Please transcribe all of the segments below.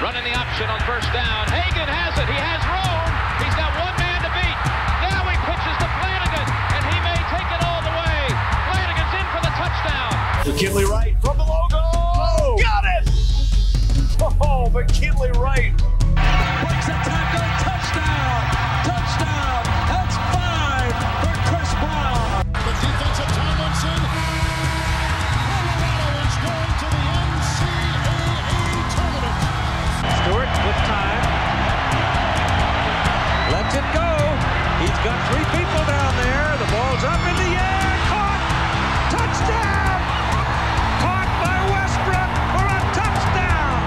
Running the option on first down. Hagan has it. He has room. He's got one man to beat. Now he pitches to Flanagan, and he may take it all the way. Flanagan's in for the touchdown. McKinley Wright from the logo. Oh, got it! Oh, McKinley Wright. Breaks a tackle. Touchdown. Touchdown. That's 5 for Chris Brown. The defensive Tomlinson. Colorado is going to the NCAA tournament. Stewart with time. Lets it go. He's got 3 people down there. The ball's up in the air. Caught. Touchdown. Caught by Westbrook for a touchdown.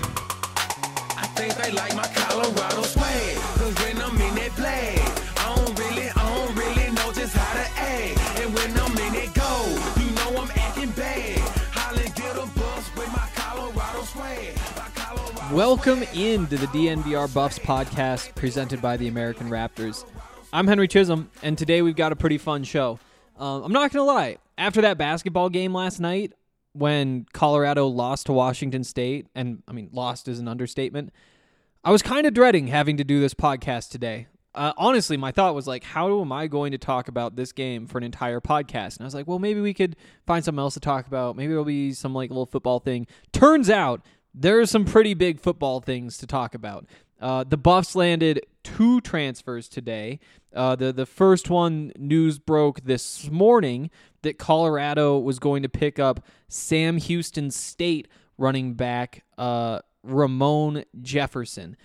I think they like my Colorado swag. Cause when I'm in that play, I don't really know just how to act. And when I'm in it go, you know I'm acting bad. Holly get a bus with my Colorado swag. Welcome into the DNVR Buffs podcast presented by the American Raptors. I'm Henry Chisholm, and today we've got a pretty fun show. I'm not going to lie. After that basketball game last night, when Colorado lost to Washington State, and I mean, lost is an understatement, I was kind of dreading having to do this podcast today. Honestly, my thought was like, how am I going to talk about this game for an entire podcast? And I was like, well, maybe we could find something else to talk about. Maybe there'll be some like little football thing. Turns out, there are some pretty big football things to talk about. The Buffs landed 2 transfers today. The first one, news broke this morning that Colorado was going to pick up Sam Houston State running back Ramon Jefferson.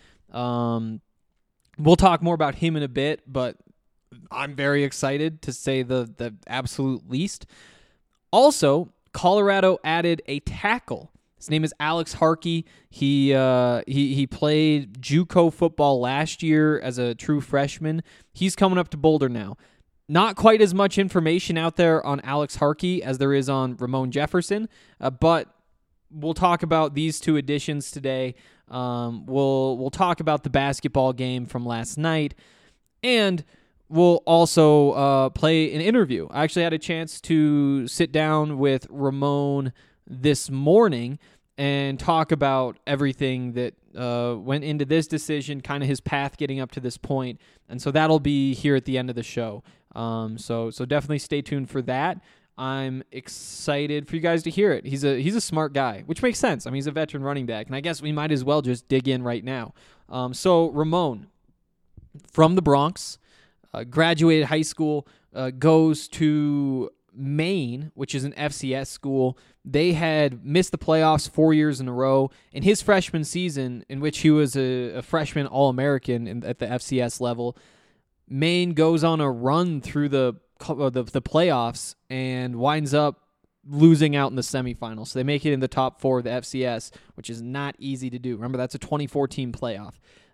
We'll talk more about him in a bit, but I'm very excited to say the absolute least. Also, Colorado added a tackle. His name is Alex Harkey. He played JUCO football last year as a true freshman. He's coming up to Boulder now. Not quite as much information out there on Alex Harkey as there is on Ramon Jefferson, but we'll talk about these 2 additions today. We'll talk about the basketball game from last night, and we'll also play an interview. I actually had a chance to sit down with Ramon this morning and talk about everything that went into this decision, kind of his path getting up to this point. And so that'll be here at the end of the show. So definitely stay tuned for that. I'm excited for you guys to hear it. He's a smart guy, which makes sense. I mean, he's a veteran running back, and I guess we might as well just dig in right now. So Ramon, from the Bronx, graduated high school, goes to Maine, which is an FCS school. They had missed the playoffs 4 years in a row. In his freshman season, in which he was a freshman All-American at the FCS level, Maine goes on a run through the playoffs and winds up losing out in the semifinals. So they make it in the top 4 of the FCS, which is not easy to do. Remember, that's a 24-team playoff.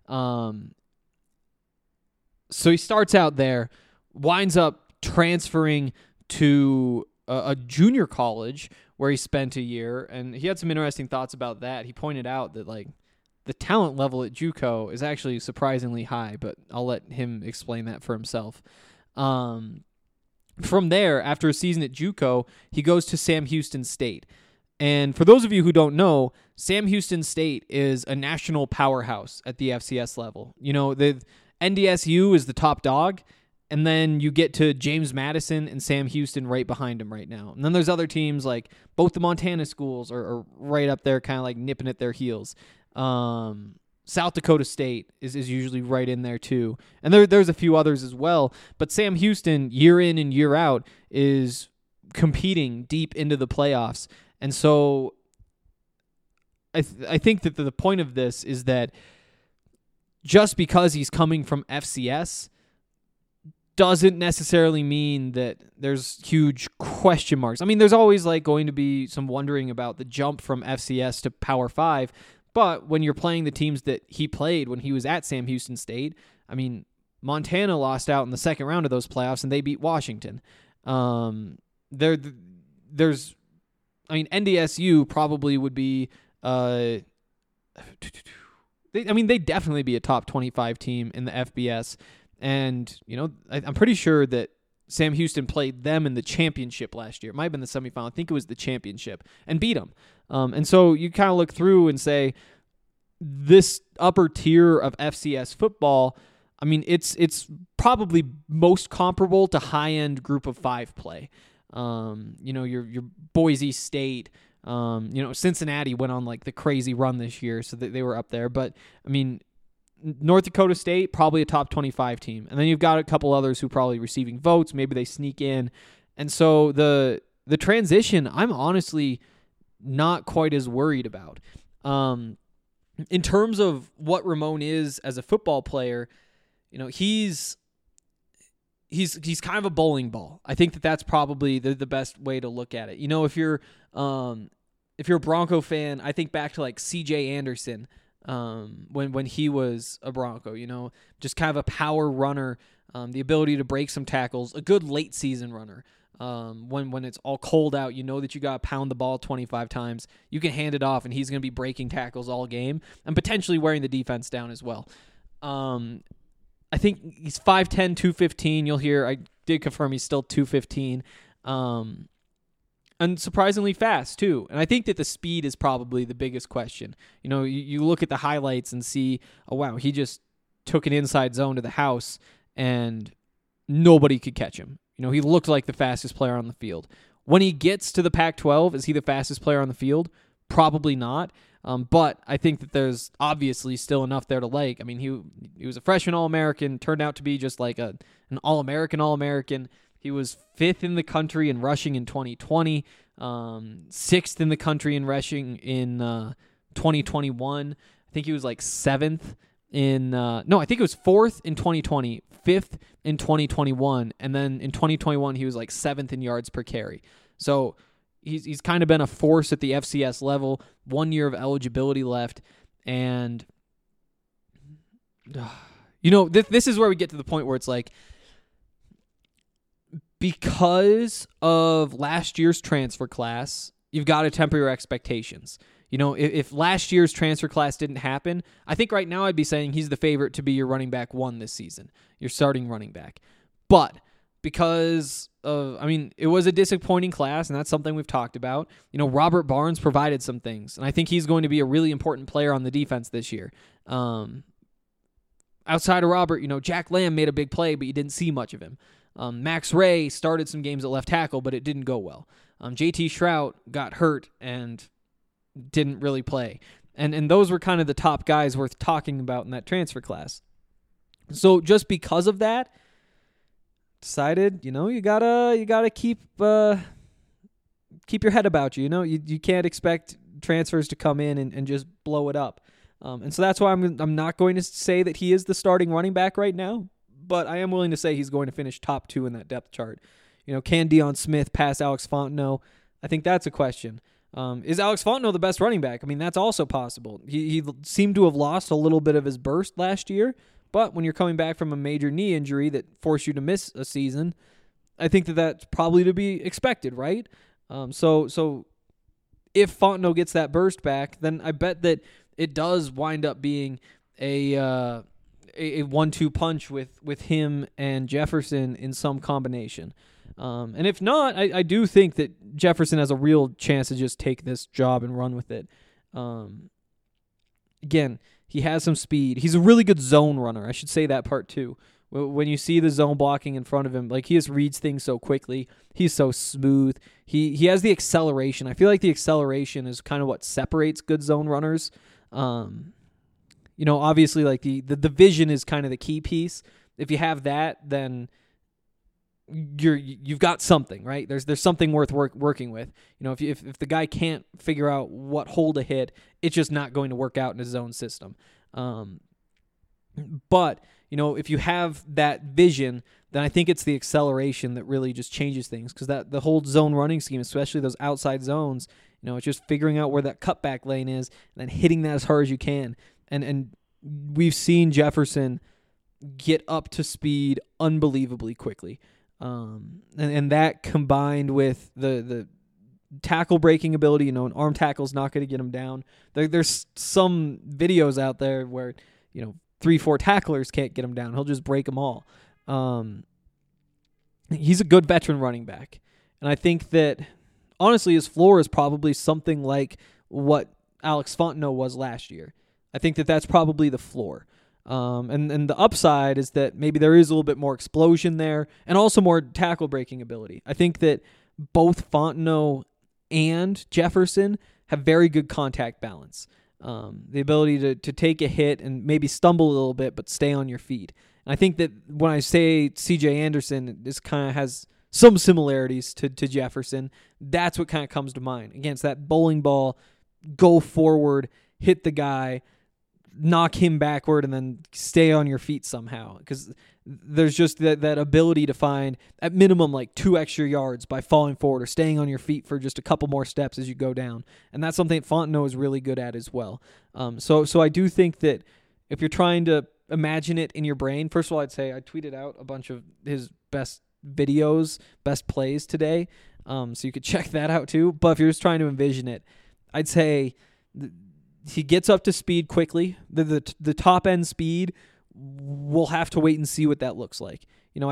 So he starts out there, winds up transferring to a junior college where he spent a year, and he had some interesting thoughts about that. He pointed out that like the talent level at JUCO is actually surprisingly high, but I'll let him explain that for himself. From there, after a season at JUCO, he goes to Sam Houston State. And for those of you who don't know, Sam Houston State is a national powerhouse at the FCS level. You know, the NDSU is the top dog, and then you get to James Madison and Sam Houston right behind him right now. And then there's other teams like both the Montana schools are right up there, kind of like nipping at their heels. South Dakota State is usually right in there too. And there's a few others as well. But Sam Houston, year in and year out, is competing deep into the playoffs. And so I think that the point of this is that just because he's coming from FCS doesn't necessarily mean that there's huge question marks. I mean, there's always like going to be some wondering about the jump from FCS to Power 5, but when you're playing the teams that he played when he was at Sam Houston State, I mean, Montana lost out in the second round of those playoffs and they beat Washington. NDSU probably would be, they'd definitely be a top 25 team in the FBS. And, you know, I'm pretty sure that Sam Houston played them in the championship last year. It might have been the semifinal. I think it was the championship, and beat them. And so you kind of look through and say, this upper tier of FCS football, I mean, it's probably most comparable to high-end Group of 5 play. Your Boise State, Cincinnati went on like the crazy run this year, so that they were up there. But I mean, North Dakota State, probably a top 25 team. And then you've got a couple others who are probably receiving votes. Maybe they sneak in. And so the transition, I'm honestly not quite as worried about. In terms of what Ramon is as a football player, he's kind of a bowling ball. I think that's probably the best way to look at it. If you're a Bronco fan, I think back to like C.J. Anderson when he was a Bronco. Just kind of a power runner, the ability to break some tackles, a good late season runner. When it's all cold out, that you got to pound the ball 25 times. You can hand it off, and he's going to be breaking tackles all game and potentially wearing the defense down as well. I think he's 5'10", 215. You'll hear, I did confirm he's still 215. And surprisingly fast, too. And I think that the speed is probably the biggest question. You look at the highlights and see, oh, wow, he just took an inside zone to the house, and nobody could catch him. He looked like the fastest player on the field. When he gets to the Pac-12, is he the fastest player on the field? Probably not. But I think that there's obviously still enough there to like. I mean, he was a freshman All-American, turned out to be just like an All-American. He was 5th in the country in rushing in 2020, 6th in the country in rushing in 2021. I think he was like 7th I think it was 4th in 2020, 5th in 2021, and then in 2021 he was like 7th in yards per carry. So he's kind of been a force at the FCS level. 1 year of eligibility left, and this is where we get to the point where it's like, because of last year's transfer class, you've got to temper your expectations. If last year's transfer class didn't happen, I think right now I'd be saying he's the favorite to be your running back 1 this season, your starting running back. But because it was a disappointing class, and that's something we've talked about. Robert Barnes provided some things, and I think he's going to be a really important player on the defense this year. Outside of Robert, Jack Lamb made a big play, but you didn't see much of him. Max Ray started some games at left tackle, but it didn't go well. JT Shrout got hurt and didn't really play. And those were kind of the top guys worth talking about in that transfer class. So just because of that, decided, you gotta keep your head about you. You can't expect transfers to come in and just blow it up. And so that's why I'm not going to say that he is the starting running back right now, but I am willing to say he's going to finish top 2 in that depth chart. Can Deion Smith pass Alex Fontenot? I think that's a question. Is Alex Fontenot the best running back? I mean, that's also possible. He seemed to have lost a little bit of his burst last year, but when you're coming back from a major knee injury that forced you to miss a season, I think that's probably to be expected, right? So if Fontenot gets that burst back, then I bet that it does wind up being a 1-2 punch with him and Jefferson in some combination. And if not, I do think that Jefferson has a real chance to just take this job and run with it. Again, he has some speed. He's a really good zone runner. I should say that part too. When you see the zone blocking in front of him, like, he just reads things so quickly. He's so smooth. He has the acceleration. I feel like the acceleration is kind of what separates good zone runners. Obviously, like the vision is kind of the key piece. If you have that, then you've got something, right? There's something worth working with. If the guy can't figure out what hole to hit, it's just not going to work out in his zone system. But if you have that vision, then I think it's the acceleration that really just changes things, because the whole zone running scheme, especially those outside zones, it's just figuring out where that cutback lane is and then hitting that as hard as you can. And we've seen Jefferson get up to speed unbelievably quickly. And that combined with the tackle breaking ability, an arm tackle's not going to get him down. There's some videos out there where, 3-4 tacklers can't get him down. He'll just break them all. He's a good veteran running back. And I think that, honestly, his floor is probably something like what Alex Fontenot was last year. I think that that's probably the floor. And the upside is that maybe there is a little bit more explosion there and also more tackle breaking ability. I think that both Fontenot and Jefferson have very good contact balance. The ability to take a hit and maybe stumble a little bit but stay on your feet. And I think that when I say C.J. Anderson, this kind of has some similarities to Jefferson. That's what kind of comes to mind. Again, it's that bowling ball, go forward, hit the guy, knock him backward, and then stay on your feet somehow. Because there's just that ability to find, at minimum, like 2 extra yards by falling forward or staying on your feet for just a couple more steps as you go down. And that's something that Fontenot is really good at as well. So I do think that if you're trying to imagine it in your brain, first of all, I'd say I tweeted out a bunch of his best videos, best plays today. So you could check that out too. But if you're just trying to envision it, I'd say he gets up to speed quickly. The top end speed, we'll have to wait and see what that looks like.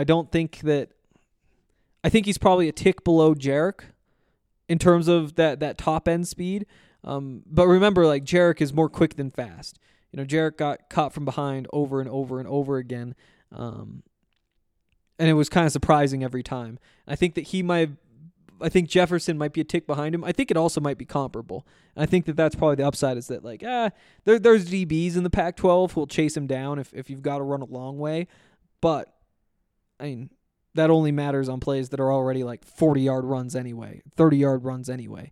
I think he's probably a tick below Jarek in terms of that top end speed. But remember, like, Jarek is more quick than fast. Jarek got caught from behind over and over and over again. And it was kind of surprising every time. I think that I think Jefferson might be a tick behind him. I think it also might be comparable. And I think that that's probably the upside, is that, like, there's DBs in the Pac-12 who will chase him down if you've got to run a long way. But, I mean, that only matters on plays that are already like 40-yard runs anyway, 30-yard runs anyway.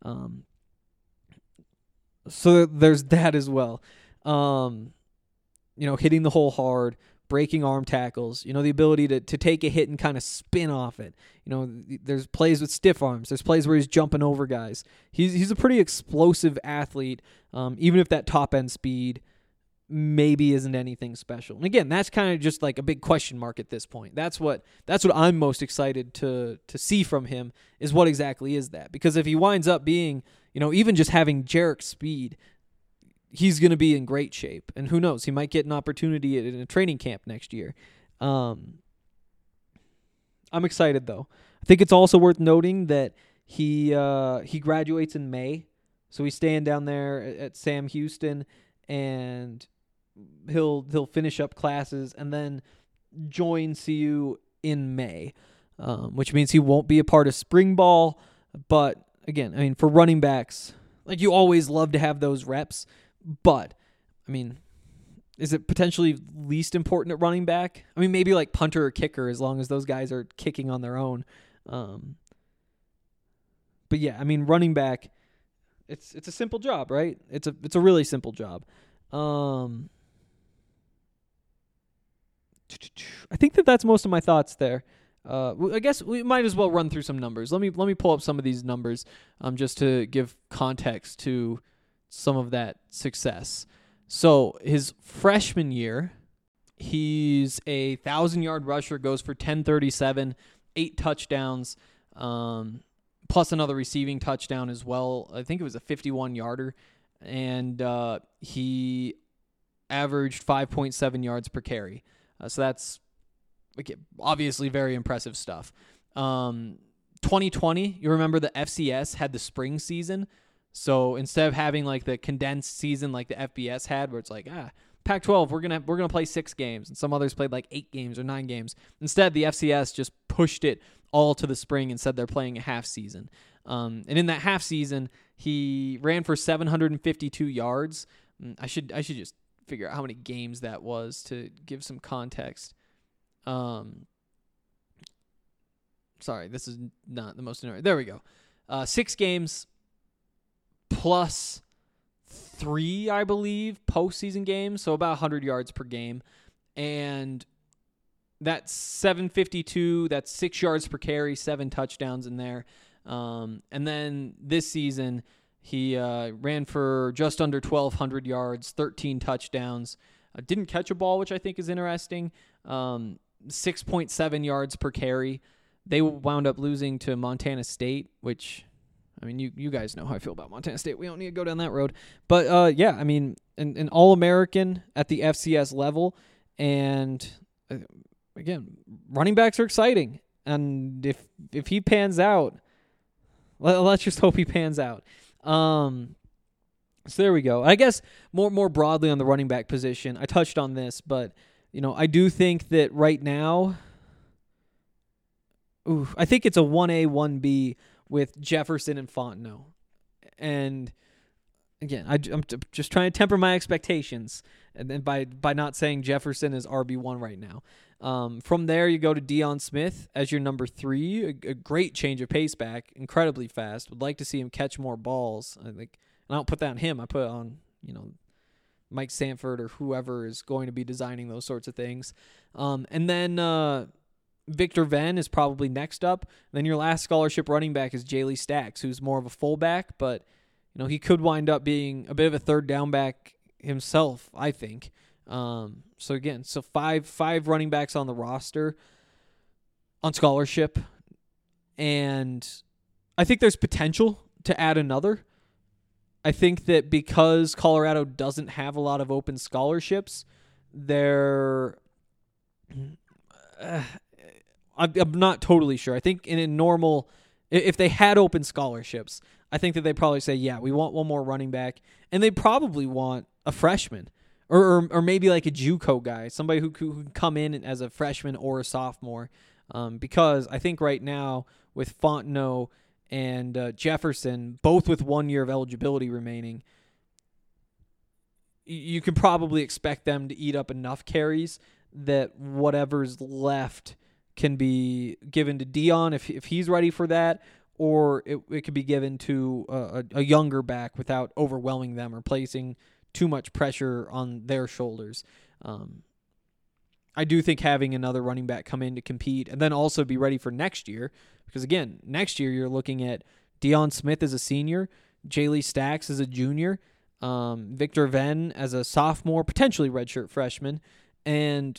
So there's that as well. Hitting the hole hard, breaking arm tackles, the ability to take a hit and kind of spin off it. There's plays with stiff arms. There's plays where he's jumping over guys. He's a pretty explosive athlete, even if that top end speed maybe isn't anything special. And again, that's kind of just like a big question mark at this point. That's what I'm most excited to see from him, is what exactly is that. Because if he winds up being, even just having Jarek's speed, he's going to be in great shape. And who knows, he might get an opportunity in a training camp next year. I'm excited, though. I think it's also worth noting that he graduates in May. So he's staying down there at Sam Houston, and he'll finish up classes and then join CU in May, which means he won't be a part of spring ball. But again, I mean, for running backs, like, you always love to have those reps. But, I mean, is it potentially least important at running back? I mean, maybe like punter or kicker, as long as those guys are kicking on their own. But yeah, I mean, running back, it's a simple job, right? It's a really simple job. I think that's most of my thoughts there. I guess we might as well run through some numbers. Let me pull up some of these numbers, just to give context to some of that success. So his freshman year, he's a 1,000-yard rusher, goes for 1037, 8 touchdowns, plus another receiving touchdown as well. I think it was a 51-yarder, and he averaged 5.7 yards per carry. So that's obviously very impressive stuff. 2020, you remember the FCS had the spring season. So instead of having like the condensed season like the FBS had, where it's like, Pac-12, we're gonna play 6 games, and some others played like 8 games or 9 games. Instead, the FCS just pushed it all to the spring and said they're playing a half season. And in that half season, he ran for 752 yards. I should just figure out how many games that was to give some context. Sorry, this is not the most interesting. There we go. 6 games. Plus 3, I believe, postseason games, so about 100 yards per game. And that's 752, that's 6 yards per carry, 7 touchdowns in there. And then this season, he ran for just under 1,200 yards, 13 touchdowns. Didn't catch a ball, which I think is interesting. 6.7 yards per carry. They wound up losing to Montana State, which... I mean, you guys know how I feel about Montana State. We don't need to go down that road. But, yeah, I mean, an All-American at the FCS level. And, again, running backs are exciting. And if he pans out, let's just hope he pans out. So there we go. I guess more broadly on the running back position, I touched on this, but I do think that right now, I think it's a 1A, 1B with Jefferson and Fontenot. And again, I'm just trying to temper my expectations, and then by not saying Jefferson is RB1 right now. From there, you go to Deion Smith as your number 3, a great change of pace back, incredibly fast. Would like to see him catch more balls. I think, and I don't put that on him. I put it on Mike Sanford or whoever is going to be designing those sorts of things. And then Victor Venn is probably next up. And then your last scholarship running back is Jaley Stacks, who's more of a fullback, but he could wind up being a bit of a third down back himself, I think. So again, five running backs on the roster on scholarship, and I think there's potential to add another. I think that because Colorado doesn't have a lot of open scholarships, I'm not totally sure. I think in a normal, if they had open scholarships, I think that they'd probably say, yeah, we want one more running back, and they probably want a freshman or maybe like a JUCO guy, somebody who could come in as a freshman or a sophomore, because I think right now with Fontenot and Jefferson, both with 1 year of eligibility remaining, you can probably expect them to eat up enough carries that whatever's left can be given to Deion if he's ready for that, or it could be given to a younger back without overwhelming them or placing too much pressure on their shoulders. I do think having another running back come in to compete and then also be ready for next year, because again, next year you're looking at Deion Smith as a senior, Jaley Stacks as a junior, Victor Venn as a sophomore, potentially redshirt freshman, and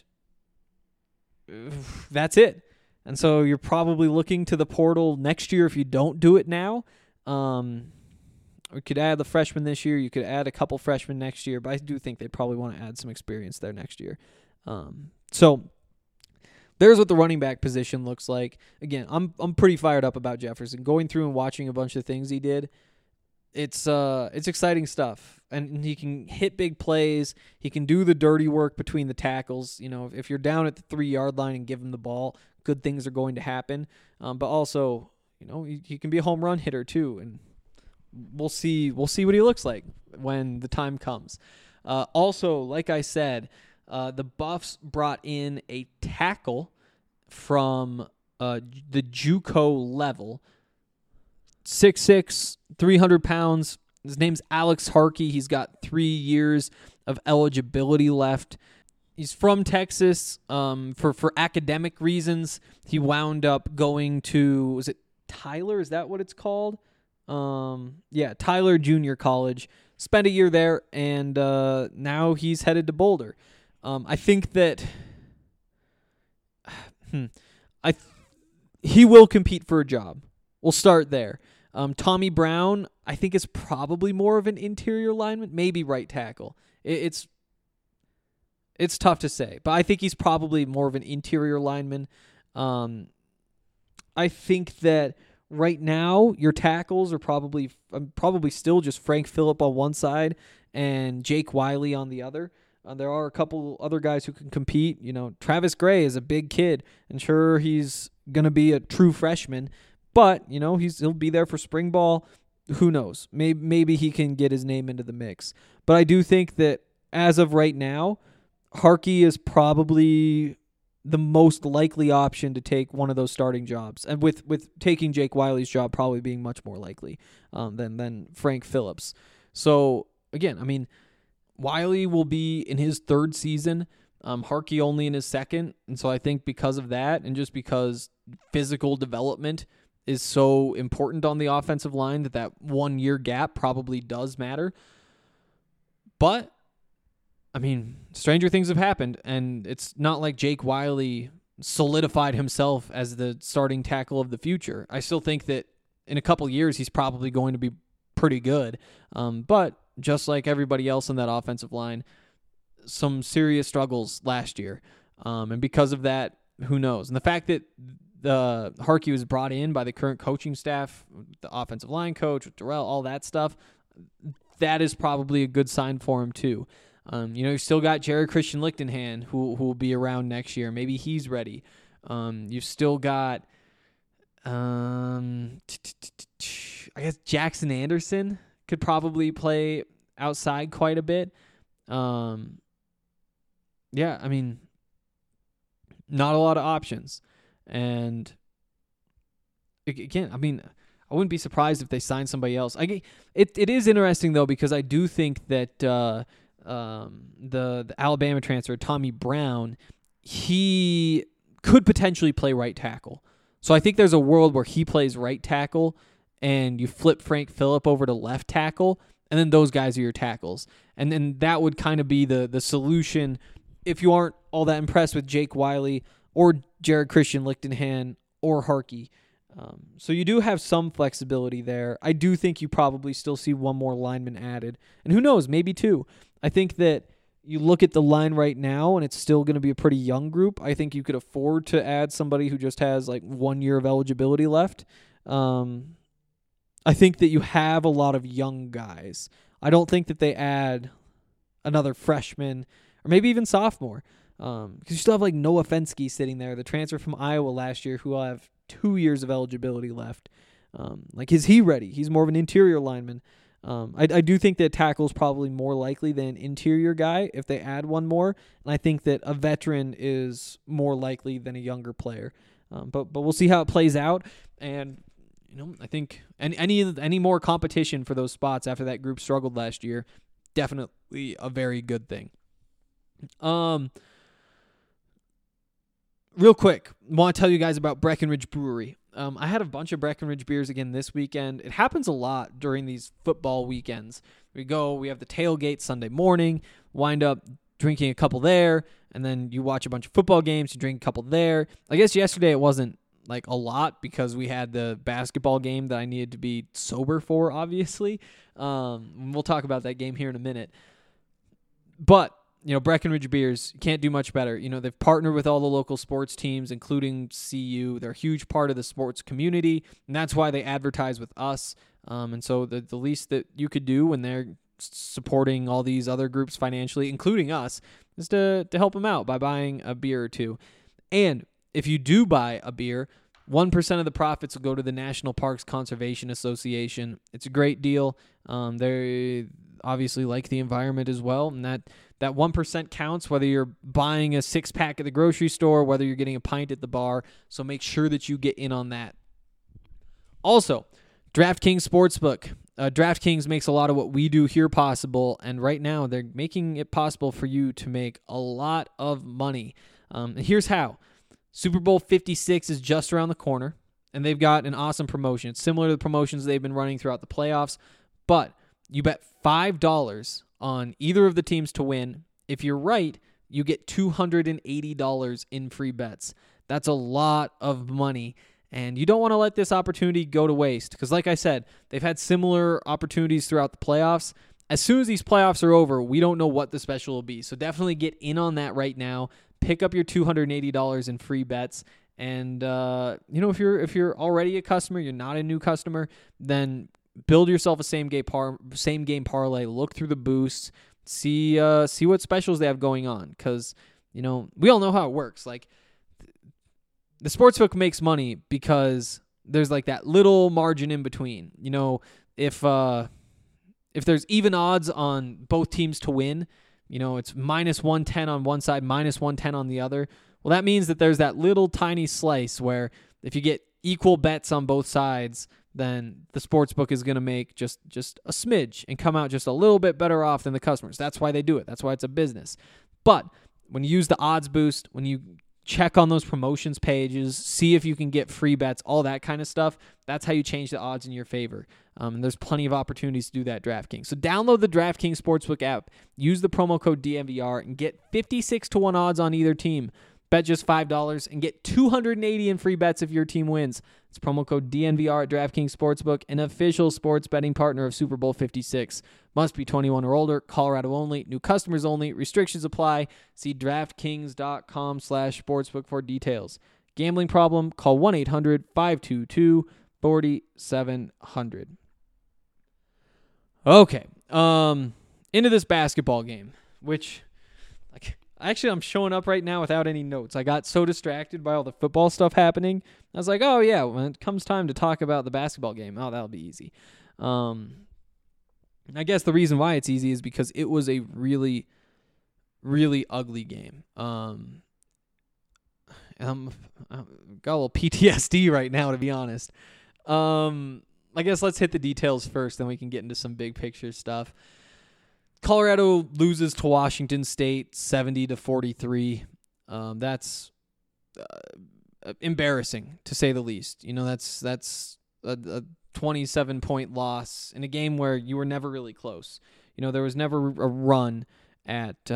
that's it. And so you're probably looking to the portal next year if you don't do it now. We could add the freshman this year. You could add a couple freshmen next year, but I do think they probably want to add some experience there next year. So there's what the running back position looks like. Again, I'm pretty fired up about Jefferson. Going through and watching a bunch of things he did, it's exciting stuff. And he can hit big plays. He can do the dirty work between the tackles. If you're down at the 3-yard line and give him the ball, good things are going to happen. But also, he can be a home run hitter too, and we'll see what he looks like when the time comes. Also, like I said, the Buffs brought in a tackle from the JUCO level, 6'6", 300 pounds. His name's Alex Harkey. He's got 3 years of eligibility left. He's from Texas. For academic reasons, he wound up going to, was it Tyler? Is that what it's called? Tyler Junior College. Spent a year there, and now he's headed to Boulder. I think that he will compete for a job. We'll start there. Tommy Brown, I think, is probably more of an interior lineman, maybe right tackle. It's tough to say, but I think he's probably more of an interior lineman. I think that right now your tackles are probably still just Frank Phillip on one side and Jake Wiley on the other. There are a couple other guys who can compete. Travis Gray is a big kid, and sure, he's going to be a true freshman, but, he'll be there for spring ball. Who knows? Maybe he can get his name into the mix. But I do think that as of right now, Harkey is probably the most likely option to take one of those starting jobs, and with taking Jake Wiley's job probably being much more likely than Frank Phillips. So, again, Wiley will be in his 3rd season, Harkey only in his 2nd, and so I think because of that, and just because physical development is so important on the offensive line, that 1 year gap probably does matter. But, stranger things have happened, and it's not like Jake Wiley solidified himself as the starting tackle of the future. I still think that in a couple years he's probably going to be pretty good, but just like everybody else in that offensive line, some serious struggles last year. And because of that, who knows? And the fact that Harkey was brought in by the current coaching staff, the offensive line coach, with Darrell, all that stuff, that is probably a good sign for him too. You've still got Jared Christian Lichtenhan who will be around next year. Maybe he's ready. You've still got, I guess Jackson Anderson could probably play outside quite a bit. Not a lot of options. And again, I wouldn't be surprised if they sign somebody else. It is interesting though, because I do think that the Alabama transfer Tommy Brown, he could potentially play right tackle. So I think there's a world where he plays right tackle and you flip Frank Phillip over to left tackle, and then those guys are your tackles. And then that would kind of be the solution if you aren't all that impressed with Jake Wiley or Jared Christian Lichtenhan or Harkey. So you do have some flexibility there. I do think you probably still see one more lineman added. And who knows, maybe two. I think that you look at the line right now, and it's still going to be a pretty young group. I think you could afford to add somebody who just has like 1 year of eligibility left. I think that you have a lot of young guys. I don't think that they add another freshman or maybe even sophomore. Because you still have like Noah Fensky sitting there, the transfer from Iowa last year, who will have 2 years of eligibility left. Is he ready? He's more of an interior lineman. I do think that tackle is probably more likely than an interior guy if they add one more. And I think that a veteran is more likely than a younger player. But we'll see how it plays out. And I think any more competition for those spots after that group struggled last year, definitely a very good thing. Real quick, I want to tell you guys about Breckenridge Brewery. I had a bunch of Breckenridge beers again this weekend. It happens a lot during these football weekends. We have the tailgate Sunday morning, wind up drinking a couple there, and then you watch a bunch of football games, you drink a couple there. I guess yesterday it wasn't like a lot because we had the basketball game that I needed to be sober for, obviously. We'll talk about that game here in a minute. But Breckenridge Beers can't do much better. They've partnered with all the local sports teams, including CU. They're a huge part of the sports community, and that's why they advertise with us. And so the least that you could do when they're supporting all these other groups financially, including us, is to help them out by buying a beer or two. And if you do buy a beer, 1% of the profits will go to the National Parks Conservation Association. It's a great deal. They obviously like the environment as well, and that 1% counts, whether you're buying a 6-pack at the grocery store, whether you're getting a pint at the bar, so make sure that you get in on that. Also, DraftKings Sportsbook. DraftKings makes a lot of what we do here possible, and right now they're making it possible for you to make a lot of money. And here's how. Super Bowl 56 is just around the corner, and they've got an awesome promotion. It's similar to the promotions they've been running throughout the playoffs, but you bet $5 on either of the teams to win. If you're right, you get $280 in free bets. That's a lot of money, and you don't want to let this opportunity go to waste because, like I said, they've had similar opportunities throughout the playoffs. As soon as these playoffs are over, we don't know what the special will be, so definitely get in on that right now. Pick up your $280 in free bets, and if you're already a customer, you're not a new customer, then build yourself a same game parlay. Look through the boosts, see what specials they have going on, because we all know how it works. Like the sportsbook makes money because there's like that little margin in between. If there's even odds on both teams to win, it's minus 110 on one side, minus 110 on the other. Well, that means that there's that little tiny slice where if you get equal bets on both sides, then the sportsbook is going to make just a smidge and come out just a little bit better off than the customers. That's why they do it. That's why it's a business. But when you use the odds boost, when you check on those promotions pages, see if you can get free bets, all that kind of stuff, that's how you change the odds in your favor. And there's plenty of opportunities to do that at DraftKings. So download the DraftKings Sportsbook app, use the promo code DNVR, and get 56-1 odds on either team. Bet just $5 and get $280 in free bets if your team wins. It's promo code DNVR at DraftKings Sportsbook, an official sports betting partner of Super Bowl 56. Must be 21 or older, Colorado only, new customers only, restrictions apply. See DraftKings.com/sportsbook for details. Gambling problem? Call 1-800-522-4700. Okay. Into this basketball game, which, like, actually I'm showing up right now without any notes. I got so distracted by all the football stuff happening. I was like, oh yeah, when it comes time to talk about the basketball game, oh, that'll be easy. I guess the reason why it's easy is because it was a really, really ugly game. I've got a little PTSD right now, to be honest. I guess let's hit the details first, then we can get into some big picture stuff. Colorado loses to Washington State 70-43. That's embarrassing, to say the least. You know, that's a 27-point loss in a game where you were never really close. You know, there was never a run at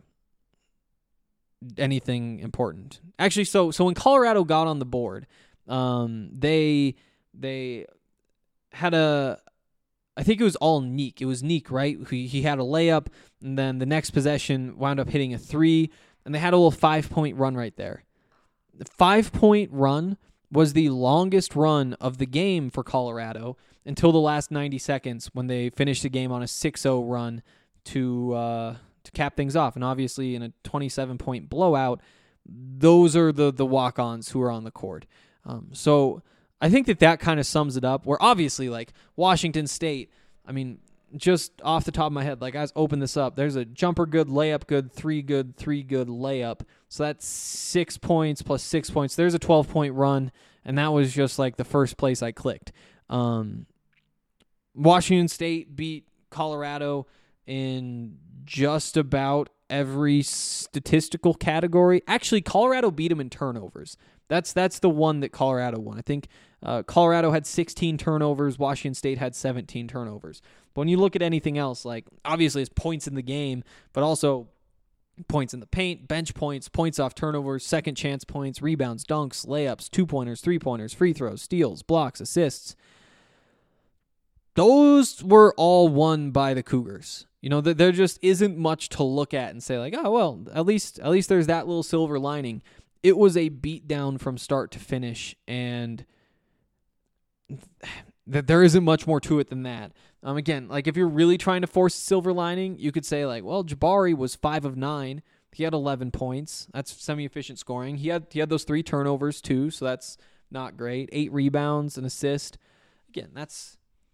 anything important. Actually, so when Colorado got on the board, they had I think it was all Neek. It was Neek, right? He had a layup, and then the next possession wound up hitting a 3, and they had a little 5-point run right there. The 5-point run was the longest run of the game for Colorado until the last 90 seconds when they finished the game on a 6-0 run to cap things off. And obviously in a 27-point blowout, those are the walk-ons who are on the court. So I think that kind of sums it up, where obviously, like, Washington State, I mean, just off the top of my head, like, guys, open this up. There's a jumper good, layup good, 3 good layup. So that's 6 points plus 6 points. There's a 12-point run, and that was just, like, the first place I clicked. Washington State beat Colorado in just about every statistical category. Actually, Colorado beat them in turnovers. That's the one that Colorado won. I think Colorado had 16 turnovers. Washington State had 17 turnovers. But when you look at anything else, like, obviously it's points in the game, but also points in the paint, bench points, points off turnovers, second chance points, rebounds, dunks, layups, 2-pointers, 3-pointers, free throws, steals, blocks, assists. Those were all won by the Cougars. You know, there just isn't much to look at and say, like, oh, well, at least there's that little silver lining. It was a beatdown from start to finish, and there isn't much more to it than that. Again, like, if you're really trying to force a silver lining, you could say, like, well, Jabari was 5 of 9. He had 11 points. That's semi-efficient scoring. He had those 3 turnovers too, so that's not great. 8 rebounds, an assist. Again, that's,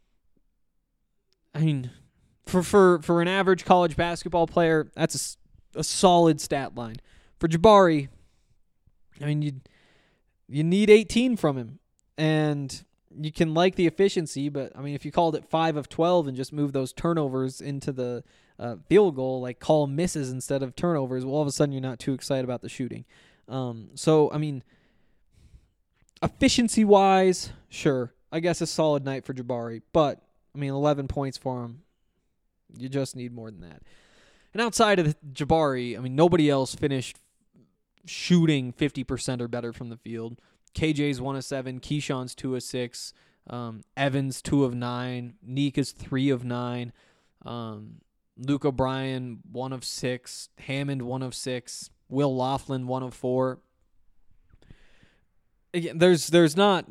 I mean, for an average college basketball player, that's a solid stat line. For Jabari, I mean, you need 18 from him, and you can like the efficiency, but I mean, if you called it 5 of 12 and just move those turnovers into the field goal, like call misses instead of turnovers, well, all of a sudden you're not too excited about the shooting. So, I mean, efficiency-wise, sure, I guess a solid night for Jabari, but, I mean, 11 points for him, you just need more than that. And outside of Jabari, I mean, nobody else finished shooting 50% or better from the field. KJ's 1 of 7, Keyshawn's 2 of 6, Evans 2 of 9, Neek is 3 of 9, Luke O'Brien 1 of 6, Hammond 1 of 6, Will Laughlin 1 of 4. Again, there's nothing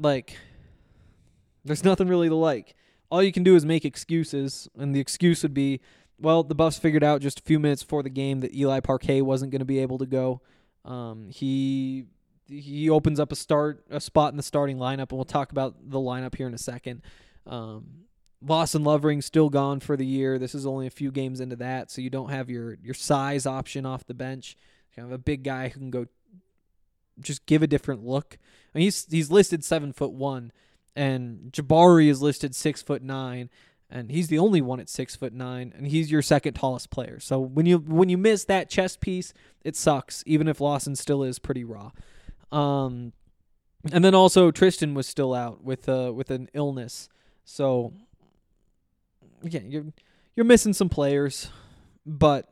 really to like. All you can do is make excuses, and the excuse would be, well, the Buffs figured out just a few minutes before the game that Eli Parquet wasn't going to be able to go. He opens up a spot in the starting lineup, and we'll talk about the lineup here in a second. Lawson Lovering's still gone for the year. This is only a few games into that, so you don't have your size option off the bench. You have a big guy who can go just give a different look. I mean, he's listed 7'1", and Jabari is listed 6'9", and he's the only one at 6'9", and he's your second tallest player. So when you miss that chest piece, it sucks, even if Lawson still is pretty raw. And then also Tristan was still out with an illness. So again, you're missing some players, but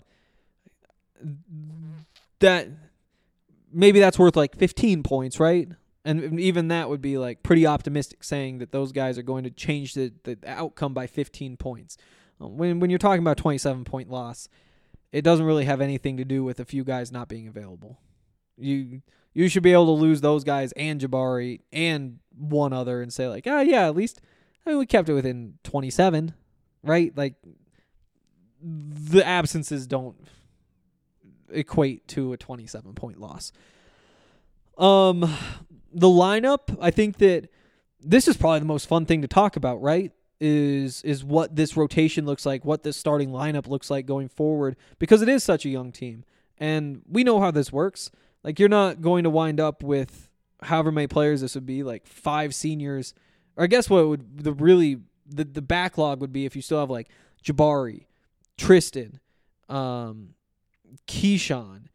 that maybe that's worth like 15 points, right? And even that would be like pretty optimistic, saying that those guys are going to change the outcome by 15 points. When you're talking about a 27-point loss, it doesn't really have anything to do with a few guys not being available. You should be able to lose those guys and Jabari and one other and say, like, yeah, at least we kept it within 27, right? Like, the absences don't equate to a 27-point loss. The lineup, I think that this is probably the most fun thing to talk about, right? Is what this rotation looks like, what this starting lineup looks like going forward, because it is such a young team. And we know how this works. Like, you're not going to wind up with however many players this would be, like 5 seniors. Or I guess what would the backlog would be if you still have like Jabari, Tristan, Keyshawn,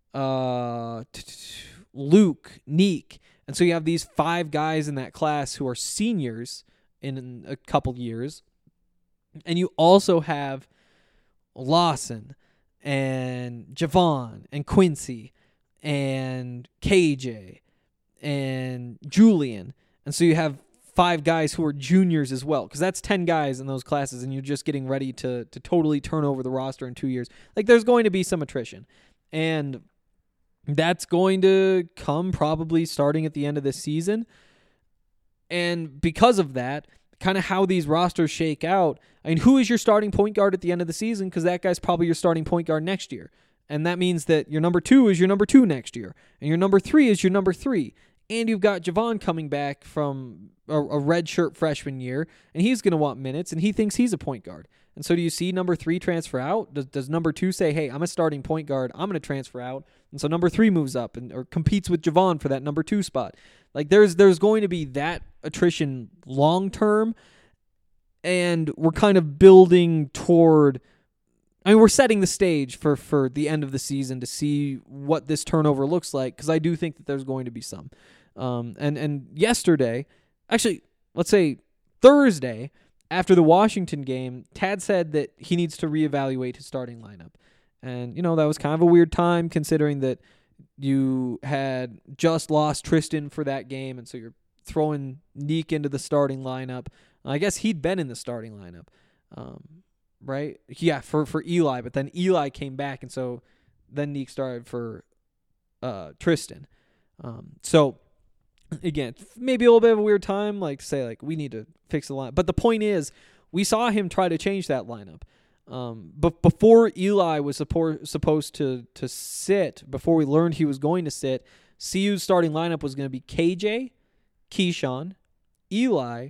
Luke, Neek. And so you have these 5 guys in that class who are seniors in a couple years. And you also have Lawson and Javon and Quincy and KJ and Julian. And so you have 5 guys who are juniors as well, because that's 10 guys in those classes, and you're just getting ready to totally turn over the roster in 2 years. Like, there's going to be some attrition. And that's going to come probably starting at the end of this season. And because of that, kind of how these rosters shake out, I mean, who is your starting point guard at the end of the season? Because that guy's probably your starting point guard next year. And that means that your number 2 is your number 2 next year. And your number 3 is your number 3. And you've got Javon coming back from a redshirt freshman year, and he's going to want minutes, and he thinks he's a point guard. And so do you see number 3 transfer out? Does number 2 say, hey, I'm a starting point guard, I'm going to transfer out? And so number 3 moves up or competes with Javon for that number 2 spot. Like, there's going to be that attrition long term, and we're kind of building toward, I mean, we're setting the stage for the end of the season to see what this turnover looks like, because I do think that there's going to be some. And yesterday, actually, let's say Thursday, after the Washington game, Tad said that he needs to reevaluate his starting lineup. And, you know, that was kind of a weird time considering that you had just lost Tristan for that game, and so you're throwing Neek into the starting lineup. I guess he'd been in the starting lineup, right? Yeah, for Eli, but then Eli came back, and so then Neek started for Tristan. So, again, maybe a little bit of a weird time, like to say, like, we need to fix the lineup. But the point is, we saw him try to change that lineup. But before Eli was supposed to sit, before we learned he was going to sit, CU's starting lineup was going to be KJ, Keyshawn, Eli,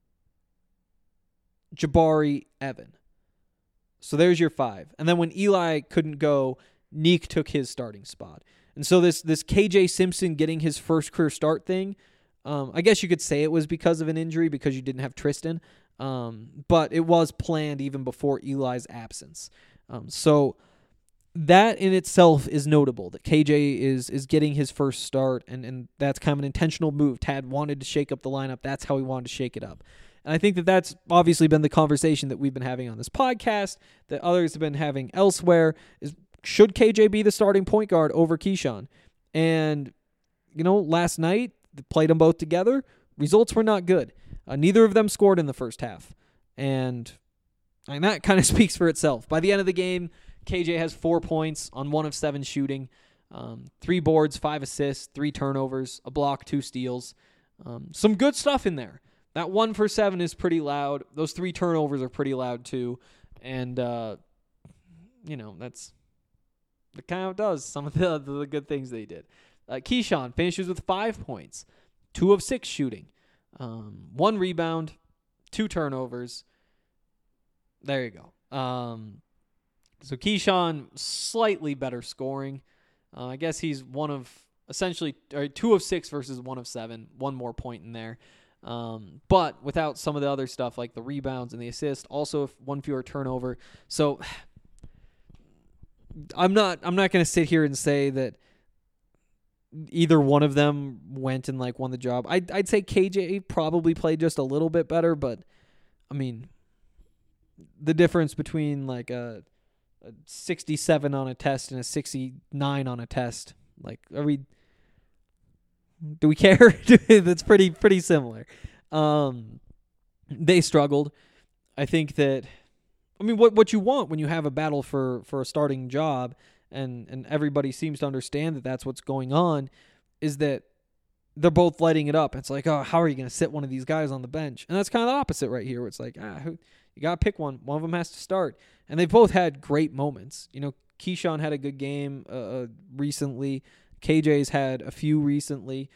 Jabari, Evan. So there's your 5. And then when Eli couldn't go, Neek took his starting spot. And so this KJ Simpson getting his first career start thing, I guess you could say it was because of an injury because you didn't have Tristan. But it was planned even before Eli's absence. So that in itself is notable, that KJ is getting his first start, and that's kind of an intentional move. Tad wanted to shake up the lineup. That's how he wanted to shake it up. And I think that that's obviously been the conversation that we've been having on this podcast, that others have been having elsewhere, is should KJ be the starting point guard over Keyshawn? And, you know, last night, they played them both together. Results were not good. Neither of them scored in the first half. And that kind of speaks for itself. By the end of the game, KJ has 4 points on 1 of 7 shooting, 3 boards, 5 assists, 3 turnovers, a block, 2 steals. Some good stuff in there. That 1 for 7 is pretty loud. Those 3 turnovers are pretty loud too. And, you know, that's it kind of does some of the good things they did. Keyshawn finishes with 5 points, 2 of 6 shooting, 1 rebound, 2 turnovers. There you go. So Keyshawn, slightly better scoring. I guess he's one of essentially 2 of 6 versus 1 of 7. 1 more point in there. But without some of the other stuff like the rebounds and the assist, also 1 fewer turnover. So I'm not going to sit here and say that either one of them went and like won the job. I'd say KJ probably played just a little bit better, but I mean, the difference between like a 67 on a test and a 69 on a test, like, do we care? That's pretty similar. They struggled. I think that, I mean, what you want when you have a battle for a starting job, and everybody seems to understand that that's what's going on, is that they're both lighting it up. It's like, oh, how are you going to sit one of these guys on the bench? And that's kind of the opposite right here, where it's like, You got to pick one. One of them has to start. And they both had great moments. You know, Keyshawn had a good game recently. KJ's had a few recently.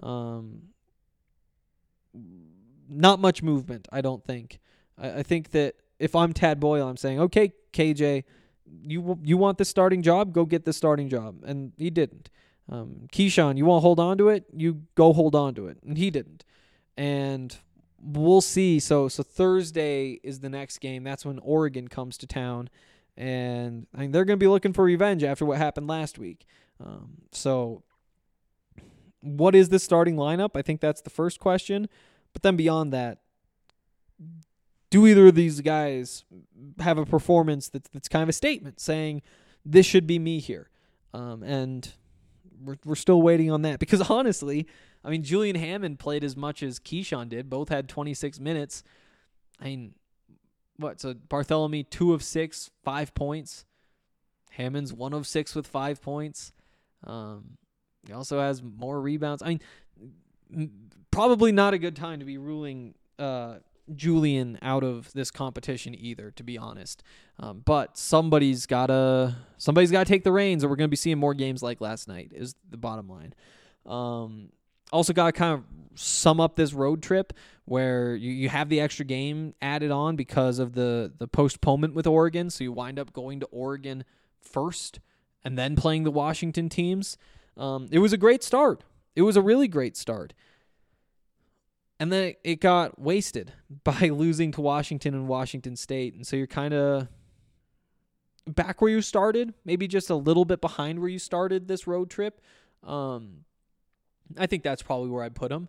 Not much movement, I don't think. I think that if I'm Tad Boyle, I'm saying, okay, KJ, you want the starting job? Go get the starting job. And he didn't. Keyshawn, you want to hold on to it? You go hold on to it. And he didn't. And we'll see. So Thursday is the next game. That's when Oregon comes to town. And I mean, they're going to be looking for revenge after what happened last week. So what is the starting lineup? I think that's the first question. But then beyond that, do either of these guys have a performance that's kind of a statement saying this should be me here? And we're still waiting on that. Because honestly, I mean, Julian Hammond played as much as Keyshawn did. Both had 26 minutes. I mean, what? So Bartholomew, 2 of 6, 5 points. Hammond's 1 of 6 with 5 points. He also has more rebounds. I mean, probably not a good time to be ruling Julian out of this competition either, to be honest. But somebody's gotta take the reins, or we're gonna be seeing more games like last night. Is the bottom line. Also got to kind of sum up this road trip where you have the extra game added on because of the postponement with Oregon. So you wind up going to Oregon first and then playing the Washington teams. It was a great start. It was a really great start. And then it got wasted by losing to Washington and Washington State. And so you're kind of back where you started, maybe just a little bit behind where you started this road trip. I think that's probably where I'd put them.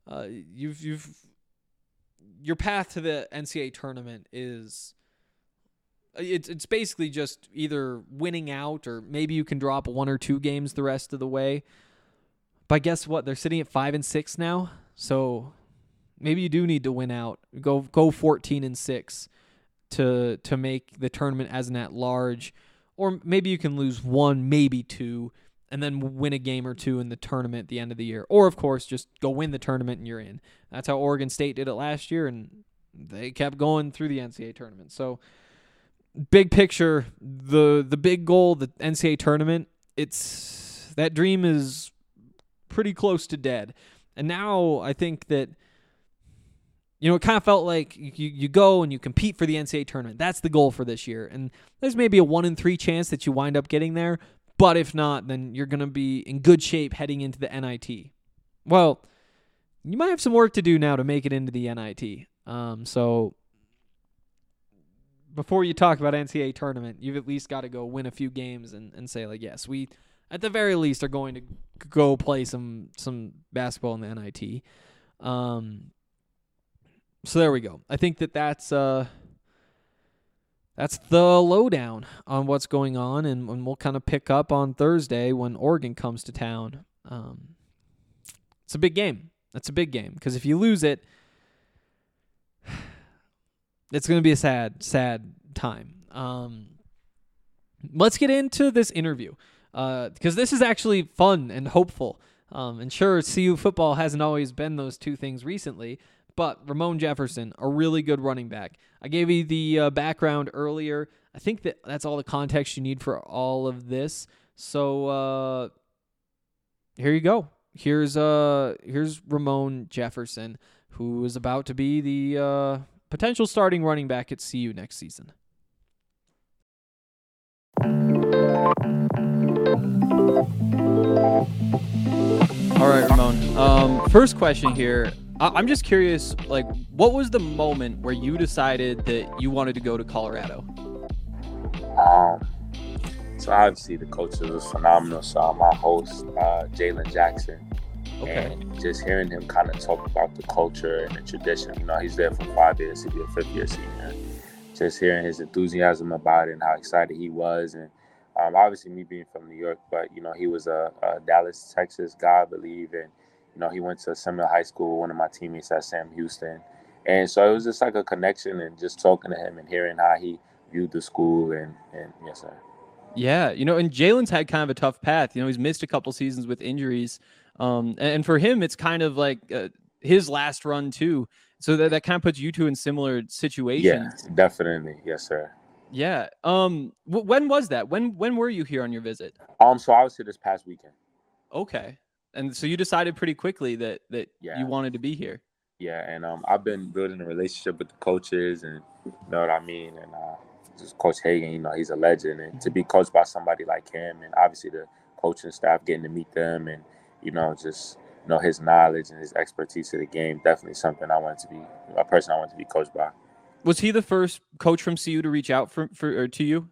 Your path to the NCAA tournament is it's basically just either winning out or maybe you can drop 1 or 2 games the rest of the way. But guess what? They're sitting at 5-6 now, so maybe you do need to win out. Go 14-6 to make the tournament as an at-large, or maybe you can lose 1, maybe 2. And then win a game or 2 in the tournament at the end of the year. Or, of course, just go win the tournament and you're in. That's how Oregon State did it last year, and they kept going through the NCAA tournament. So, big picture, the big goal, the NCAA tournament, that dream is pretty close to dead. And now I think that, it kind of felt like you go and you compete for the NCAA tournament. That's the goal for this year. And there's maybe a 1 in 3 chance that you wind up getting there. But if not, then you're going to be in good shape heading into the NIT. Well, you might have some work to do now to make it into the NIT. So before you talk about NCAA tournament, you've at least got to go win a few games and say, like, yes, we at the very least are going to go play some basketball in the NIT. So there we go. I think that's the lowdown on what's going on, and we'll kind of pick up on Thursday when Oregon comes to town. It's a big game. That's a big game, because if you lose it, it's going to be a sad time. Let's get into this interview, because this is actually fun and hopeful. And sure, CU football hasn't always been those two things recently, but Ramon Jefferson, a really good running back. I gave you the background earlier. I think that's all the context you need for all of this. So here you go. Here's Ramon Jefferson, who is about to be the potential starting running back at CU next season. All right, Ramon. First question here. I'm just curious, like, what was the moment where you decided that you wanted to go to Colorado? So obviously the coach was phenomenal. So my host, Jalen Jackson, and just hearing him kind of talk about the culture and the tradition. He's there for 5 years. He'll be a 5th-year senior. Just hearing his enthusiasm about it and how excited he was, and obviously me being from New York, but he was a Dallas, Texas guy, I believe, and he went to Seminole High School, one of my teammates at Sam Houston. And so it was just like a connection, and just talking to him and hearing how he viewed the school. And yes, sir. Yeah, and Jalen's had kind of a tough path. He's missed a couple seasons with injuries. And for him, it's kind of like his last run too. So that kind of puts you two in similar situations. Yeah, definitely. Yes, sir. Yeah. When was that? When were you here on your visit? So I was here this past weekend. Okay. And so you decided pretty quickly that you wanted to be here. Yeah, and I've been building a relationship with the coaches, and you know what I mean, and just Coach Hagan, you know, he's a legend, and to be coached by somebody like him, and obviously the coaching staff, getting to meet them, and you know, just his knowledge and his expertise of the game, definitely something I wanted to be a person I wanted to be coached by. Was he the first coach from CU to reach out to you?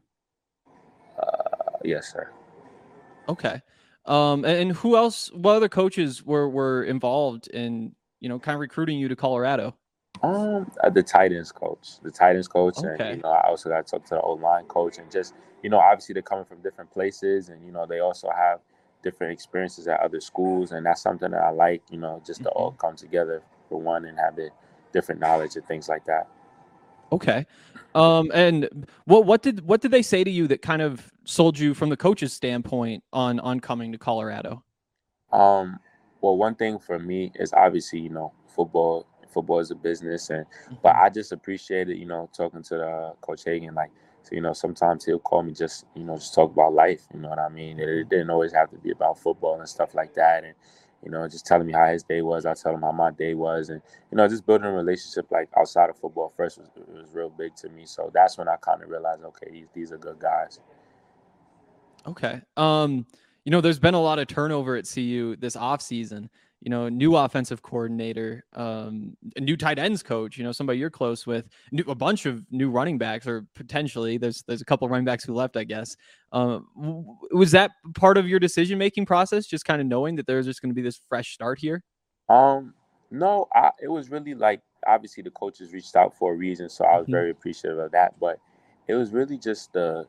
Yes, sir. Okay. And who else? What other coaches were involved in kind of recruiting you to Colorado? The tight ends coach, Okay. and I also got to talk to the O-line coach, and just obviously they're coming from different places, and they also have different experiences at other schools, and that's something that I like, just to all come together for one and have the different knowledge and things like that. Okay. And what did they say to you that kind of sold you from the coach's standpoint on coming to Colorado? Well, one thing for me is obviously, football is a business, but I just appreciated, talking to the Coach Hagan, so, sometimes he'll call me just talk about life, you know what I mean? It didn't always have to be about football and stuff like that. And, just telling me how his day was. I tell him how my day was. And, just building a relationship outside of football first was real big to me. So that's when I kind of realized, okay, these are good guys. Okay. There's been a lot of turnover at CU this offseason. New offensive coordinator, a new tight ends coach, somebody you're close with, a bunch of new running backs, or potentially there's a couple of running backs who left, I guess. Was that part of your decision-making process, just kind of knowing that there's just going to be this fresh start here? No, it was really obviously the coaches reached out for a reason, so I was very appreciative of that. But it was really just the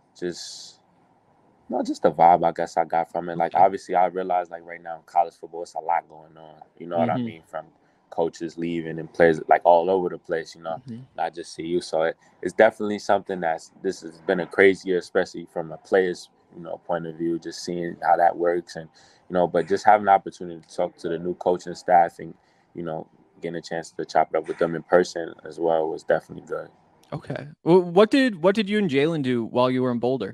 vibe I guess I got from it. Obviously I realized right now in college football, it's a lot going on. You know what I mean? From coaches leaving and players all over the place, not just CU. So it's definitely something this has been a crazy year, especially from a player's, point of view, just seeing how that works. And, but just having the opportunity to talk to the new coaching staff and, getting a chance to chop it up with them in person as well was definitely good. Okay. Well, what did you and Jalen do while you were in Boulder?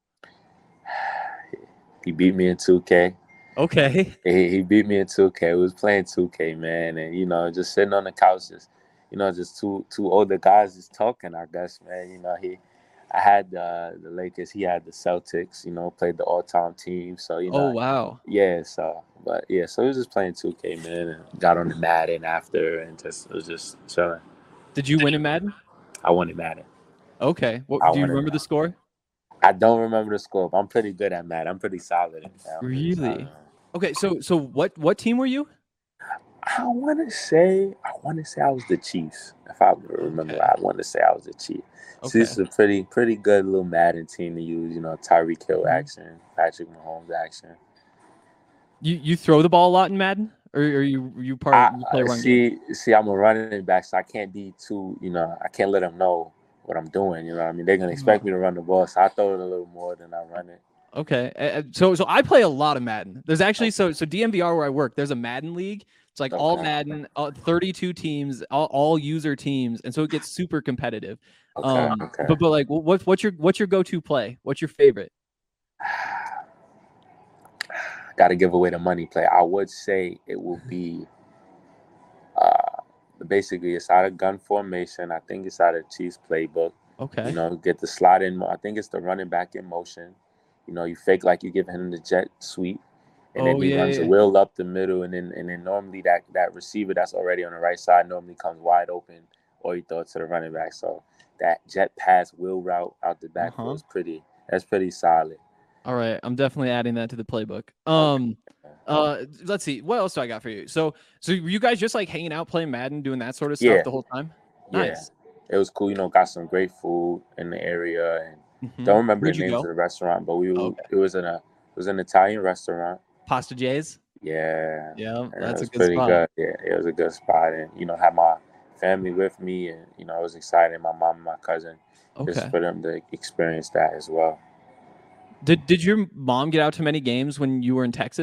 He beat me in 2K. Okay. He beat me in 2K. We was playing 2K, man, and just sitting on the couch, just two older guys just talking. I guess, man. I had the Lakers. He had the Celtics. Played the all-time team. So Oh wow. Yeah. So, so we was just playing 2K, man, and got on the Madden after, and it was just chilling. Did you win in Madden? I won in Madden. Okay. Do you remember the score? I don't remember the score, but I'm pretty good at Madden. I'm pretty solid at that. Really? Okay, so what team were you? I want to say I was the Chiefs. If I remember, okay. I want to say I was the Chiefs. Okay. So this is a pretty good little Madden team to use. Tyreek Hill action, Patrick Mahomes action. You throw the ball a lot in Madden, or are you part of you play run game? See, I'm a running back, so I can't be too. I can't let them know what I'm doing, you know what I mean? They're gonna expect me to run the ball, so I throw it a little more than I run it. Okay, so I play a lot of Madden. There's actually so DMVR where I work, there's a Madden league. It's all Madden, 32 teams, all user teams, and so it gets super competitive. Okay. But what's your go-to play? What's your favorite? Got to give away the money play. I would say it will be. Basically, it's out of gun formation. I think it's out of Chiefs playbook. Okay. Get the slot in. I think it's the running back in motion. You fake like you're giving him the jet sweep, and then he runs a wheel up the middle, and then normally that receiver that's already on the right side normally comes wide open, or you throw it to the running back. So that jet pass wheel route out the backfield is pretty solid. All right, I'm definitely adding that to the playbook. Let's see. What else do I got for you? So were you guys just hanging out, playing Madden, doing that sort of stuff the whole time? Nice. Yeah. It was cool. Got some great food in the area, and don't remember the names of the restaurant, but it was an Italian restaurant. Pasta J's. Yeah. Yeah, that's a good spot. Good. Yeah, it was a good spot, and had my family with me, and I was excited. My mom and my cousin, just for them to experience that as well. Did your mom get out to many games when you were in Texas?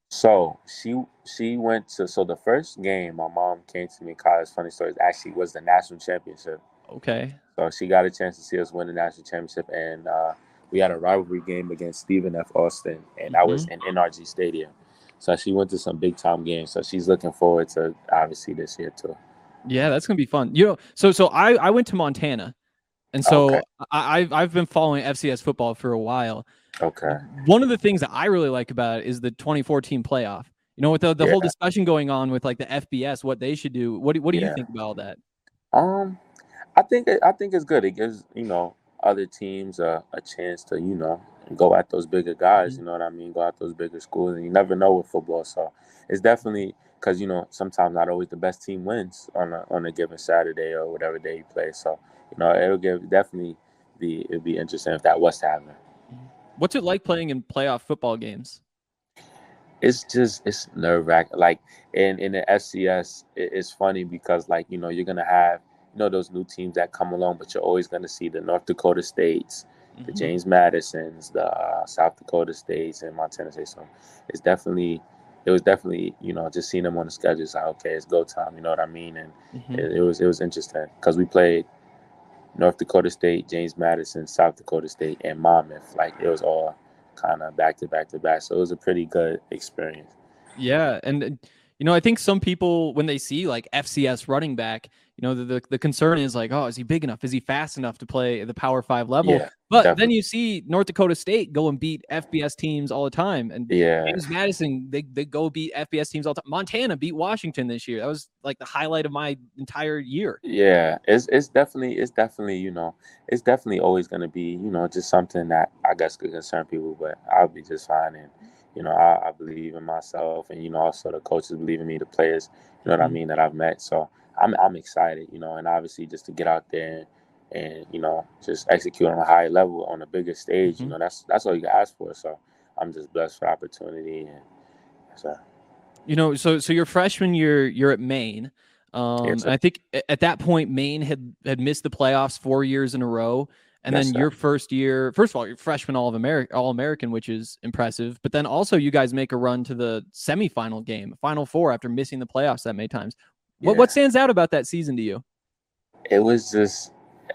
So she went to the first game my mom came to me in college. Funny story actually was the national championship. Okay. So she got a chance to see us win the national championship, and we had a rivalry game against Stephen F. Austin, and that was in NRG Stadium. So she went to some big time games. So she's looking forward to obviously this year too. Yeah, that's gonna be fun. So I went to Montana, and so Okay. I've been following FCS football for a while. Okay. One of the things that I really like about it is the 2014 playoff. With the whole discussion going on with like the FBS, what they should do. What do you think about all that? I think it's good. It gives other teams a chance to go at those bigger guys. You know what I mean? Go at those bigger schools, and you never know with football. So it's definitely because sometimes not always the best team wins on a given Saturday or whatever day you play. So it'll it'd be interesting if that was to happen. What's it like playing in playoff football games? It's nerve-wracking. Like in the FCS, it's funny because you're gonna have those new teams that come along, but you're always gonna see the North Dakota States, the James Madisons, the South Dakota States, and Montana State. So it was definitely just seeing them on the schedule. It's like, okay, it's go time. You know what I mean? And it was interesting because we played North Dakota State, James Madison, South Dakota State, and Monmouth. Like it was all kind of back to back to back. So it was a pretty good experience. Yeah. And, I think some people, when they see like FCS running back, the concern is like, oh, is he big enough? Is he fast enough to play at the Power 5 level? Yeah, but definitely. Then you see North Dakota State go and beat FBS teams all the time. And James Madison, they go beat FBS teams all the time. Montana beat Washington this year. That was like the highlight of my entire year. Yeah, it's definitely it's definitely always going to be just something that I guess could concern people, but I'll be just fine. And I believe in myself, and also the coaches believe in me, the players, what I mean, that I've met. So I'm excited, and obviously just to get out there and just execute on a high level on a bigger stage. That's all you can ask for. So I'm just blessed for the opportunity, and so. So your freshman year, you're at Maine. And I think at that point, Maine had missed the playoffs 4 years in a row. And then your first year, first of all, you're freshman All-American, which is impressive. But then also you guys make a run to the semifinal game, Final Four, after missing the playoffs that many times. What stands out about that season to you? It was just,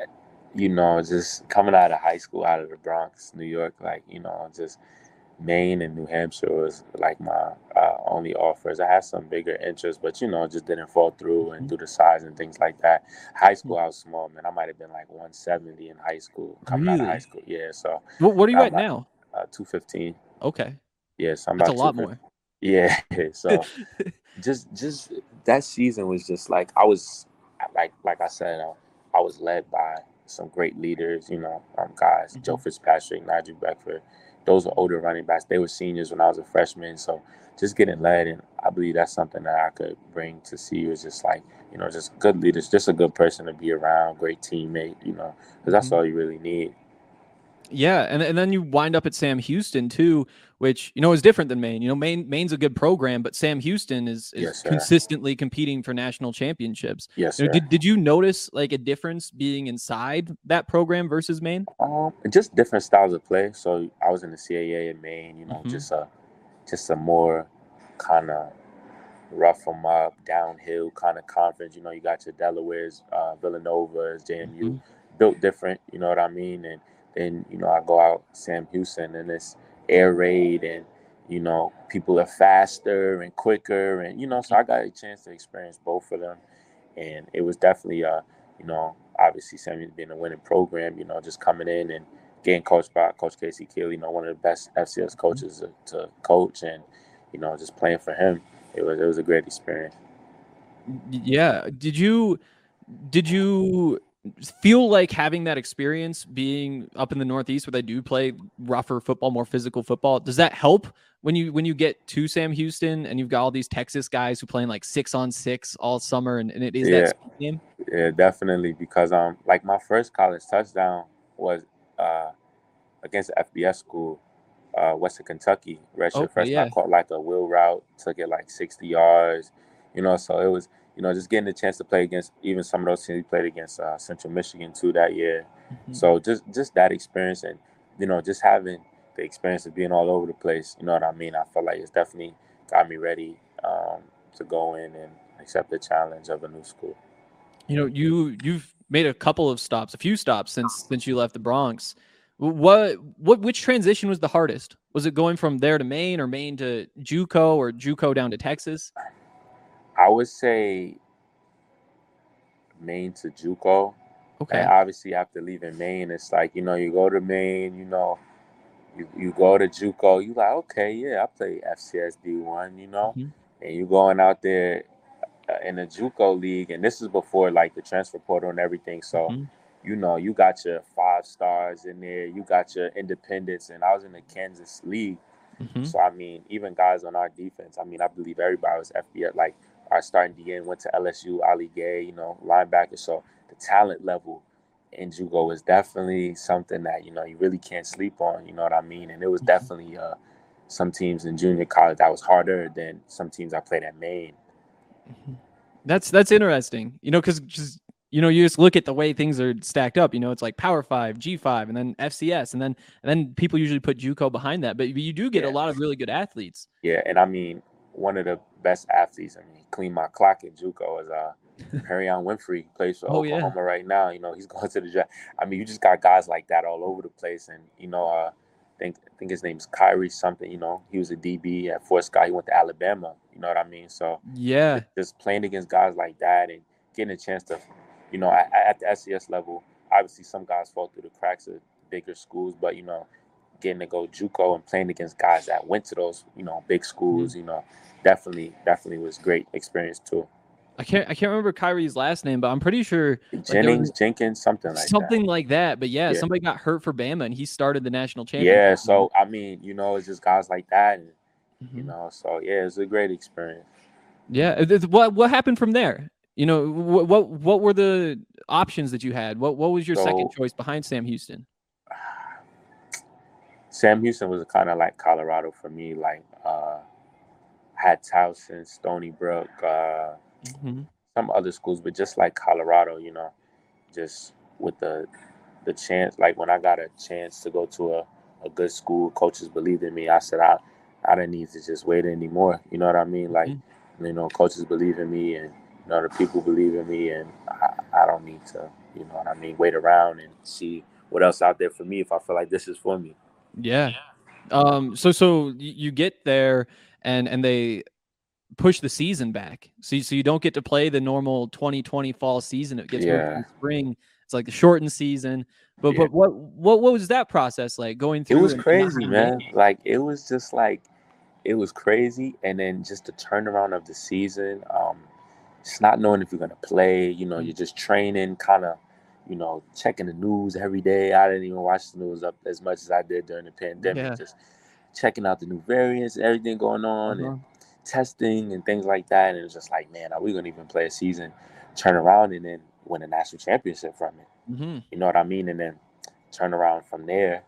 just coming out of high school, out of the Bronx, New York, just Maine and New Hampshire was like my only offers. I had some bigger interests, but just didn't fall through and due to size and things like that. High school, I was small, man. I might have been like 170 in high school, coming out of high school. Yeah, so. What are you at now? 215. Okay. Yeah, so I'm That's about a lot more. Yeah, so just that season was just like I was like I said, I was led by some great leaders, guys, Joe Fitzpatrick, Nigel Beckford. Those were older running backs. They were seniors when I was a freshman. So just getting led, and I believe that's something that I could bring to CU is just like, just good leaders, just a good person to be around, great teammate, because that's all you really need. Yeah, and then you wind up at Sam Houston too, which is different than Maine. Maine's a good program, but Sam Houston is consistently competing for national championships. Yes, sir. Did you notice like a difference being inside that program versus Maine? Just different styles of play. So I was in the CAA in Maine, just a more kind of rough them up, downhill kind of conference. You got your Delaware's, Villanova's, JMU, built different. You know what I mean? And then I go out Sam Houston, and it's air raid, and people are faster and quicker, and so I got a chance to experience both of them, and it was definitely obviously Sam being a winning program, just coming in and getting coached by Coach Casey Keeley, one of the best FCS coaches to coach, and just playing for him, it was a great experience. Yeah. Did you feel like having that experience being up in the Northeast where they do play rougher football, more physical football? Does that help when you get to Sam Houston and you've got all these Texas guys who playing like 6-on-6 all summer, and it is that game? Yeah, definitely. Because like my first college touchdown was against the FBS school, Western Kentucky, redshirt freshman. I caught like a wheel route, took it like 60 yards, so it was, just getting the chance to play against even some of those teams we played against Central Michigan too that year. So just that experience, and, just having the experience of being all over the place, you know what I mean? I felt like it's definitely got me ready to go in and accept the challenge of a new school. You know, you've made a few stops since you left the Bronx. Which transition was the hardest? Was it going from there to Maine, or Maine to JUCO, or JUCO down to Texas? I would say Maine to JUCO. Okay. And obviously after leaving Maine, it's like, you go to Maine, you go to JUCO, you like, okay, yeah, I play FCS D1, Mm-hmm. and you going out there in the JUCO league, and this is before like the transfer portal and everything. So, Mm-hmm. You got your 5 stars in there, you got your independents, and I was in the Kansas league. Mm-hmm. So, I mean, even guys on our defense, I mean, I believe everybody was FBS. Like, our starting DN went to LSU, Ali Gay, linebacker. So, the talent level in JUCO was definitely something that, you really can't sleep on, you know what I mean? And it was definitely some teams in junior college that was harder than some teams I played at Maine. That's interesting, because you just look at the way things are stacked up. It's like Power 5, G5, and then FCS, and then people usually put JUCO behind that. But you do get a lot of really good athletes. Yeah, and I mean, one of the best athletes, clean my clock in JUCO is Perion Winfrey, plays for Oklahoma right now. He's going to the draft. I mean, you just got guys like that all over the place. And, I think his name's Kyrie something, he was a DB at Fort Scott. He went to Alabama, you know what I mean? So, yeah, just playing against guys like that and getting a chance to, at the SCS level, obviously some guys fall through the cracks of bigger schools, but, getting to go JUCO and playing against guys that went to those, big schools, definitely was great experience too. I can't remember Kyrie's last name, but I'm pretty sure Jenkins, something like that. But yeah, somebody got hurt for Bama, and he started the national championship. Yeah, so I mean, it's just guys like that, and so yeah, it's a great experience. Yeah, what happened from there? What were the options that you had? What was your second choice behind Sam Houston? Sam Houston was kind of like Colorado for me. Like, had Towson, Stony Brook, some other schools, but just like Colorado, just with the chance. Like, when I got a chance to go to a good school, coaches believed in me. I said I didn't need to just wait anymore. You know what I mean? Like, coaches believe in me, and the people believe in me, and I don't need to, wait around and see what else out there for me if I feel like this is for me. Yeah. So you get there and they push the season back. So you don't get to play the normal 2020 fall season. It gets moved to spring. It's like the shortened season. But what was that process like going through? It was crazy, man. Like, it was just like, it was crazy. And then just the turnaround of the season, just not knowing if you're going to play, you're just training, kind of, checking the news every day. I didn't even watch the news up as much as I did during the pandemic. Just checking out the new variants, everything going on, and testing and things like that. And it was just like, man, are we going to even play a season, turn around, and then win a national championship from it? You know what I mean? And then turn around from there.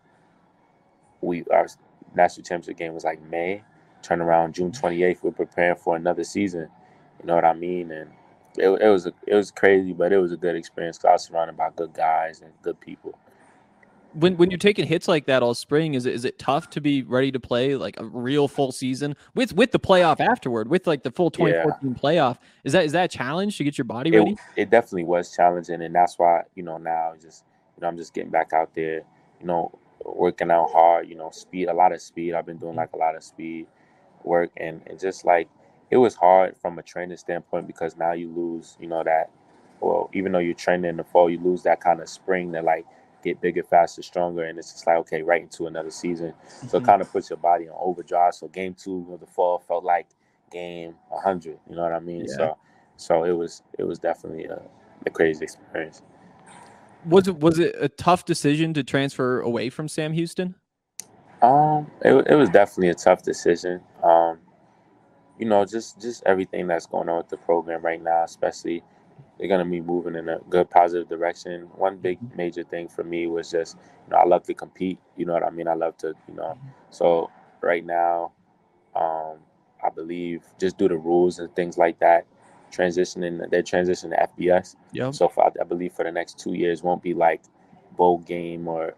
Our national championship game was like May. Turn around June 28th. We're preparing for another season. You know what I mean? And it was crazy, but it was a good experience because I was surrounded by good guys and good people. When you're taking hits like that all spring, is it tough to be ready to play like a real full season with the playoff afterward, with like the full 2014 playoff? Is that a challenge to get your body ready? It definitely was challenging, and that's why now just I'm just getting back out there, working out hard, speed, a lot of speed. I've been doing like a lot of speed work, and just like it was hard from a training standpoint because now you lose, that. Well, even though you're training in the fall, you lose that kind of spring that like get bigger, faster, stronger, and it's just like, okay, right into another season. So it kind of puts your body on overdrive. So game 2 of the fall felt like game 100. You know what I mean? Yeah. So it was definitely a crazy experience. Was it a tough decision to transfer away from Sam Houston? It was definitely a tough decision. Just everything that's going on with the program right now, especially. They're going to be moving in a good, positive direction. One big major thing for me was just, I love to compete. You know what I mean? I love to, So right now, I believe just due to rules and things like that, they're transitioning to FBS. Yep. So I believe for the next 2 years won't be like bowl game or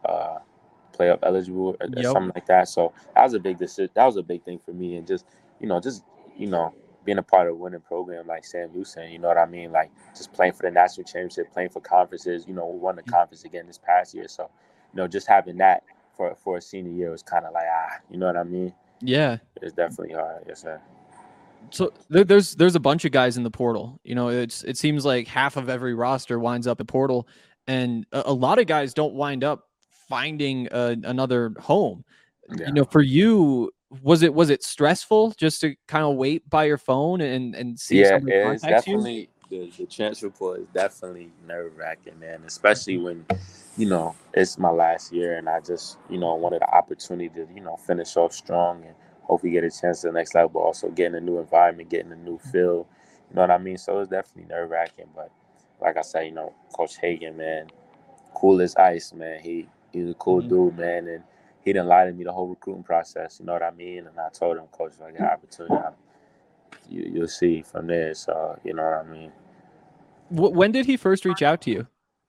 playoff eligible or something like that. So that was a big decision. That was a big thing for me. And just being a part of a winning program like Sam Houston, you know what I mean? Like just playing for the national championship, playing for conferences, we won the conference again this past year. So, just having that for a senior year was kind of like, you know what I mean? Yeah. It's definitely hard. Yes, sir. So there's a bunch of guys in the portal. It seems like half of every roster winds up at portal, and a lot of guys don't wind up finding another home. Yeah. For you, was it stressful just to kind of wait by your phone and see? Yeah, somebody it's contact you? definitely the transfer portal is definitely nerve-wracking, man. Especially when it's my last year and I just wanted the opportunity to finish off strong and hopefully get a chance to the next level. Also getting a new environment, getting a new feel. You know what I mean? So it's definitely nerve-wracking. But like I said, Coach Hagan, man, cool as ice, man. He's a cool dude, man, and he didn't lie to me the whole recruiting process. You know what I mean? And I told him, Coach, if I get an opportunity, you'll see from there. So you know what I mean. When did he first reach out to you?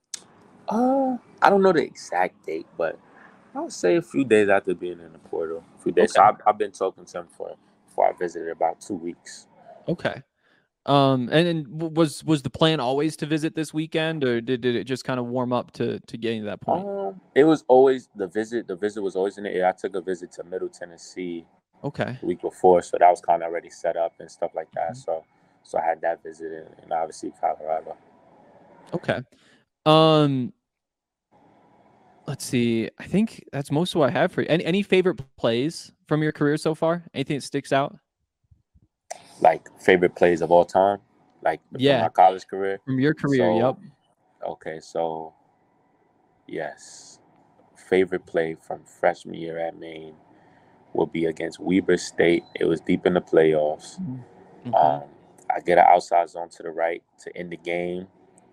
I don't know the exact date, but I would say a few days after being in the portal. A few days. Okay. So I've been talking to him before I visited about 2 weeks. Okay. And was the plan always to visit this weekend, or did it just kind of warm up to getting to that point? It was always the visit. The visit was always in the air. I took a visit to Middle Tennessee. Okay. The week before, so that was kind of already set up and stuff like that. So I had that visit and obviously Colorado. Okay. Let's see. I think that's most of what I have for you. Any favorite plays from your career so far? Anything that sticks out? Like favorite plays of all time? Like from my college career? From your career, yep. Okay, so yes. Favorite play from freshman year at Maine will be against Weber State. It was deep in the playoffs. Okay. I get an outside zone to the right to end the game.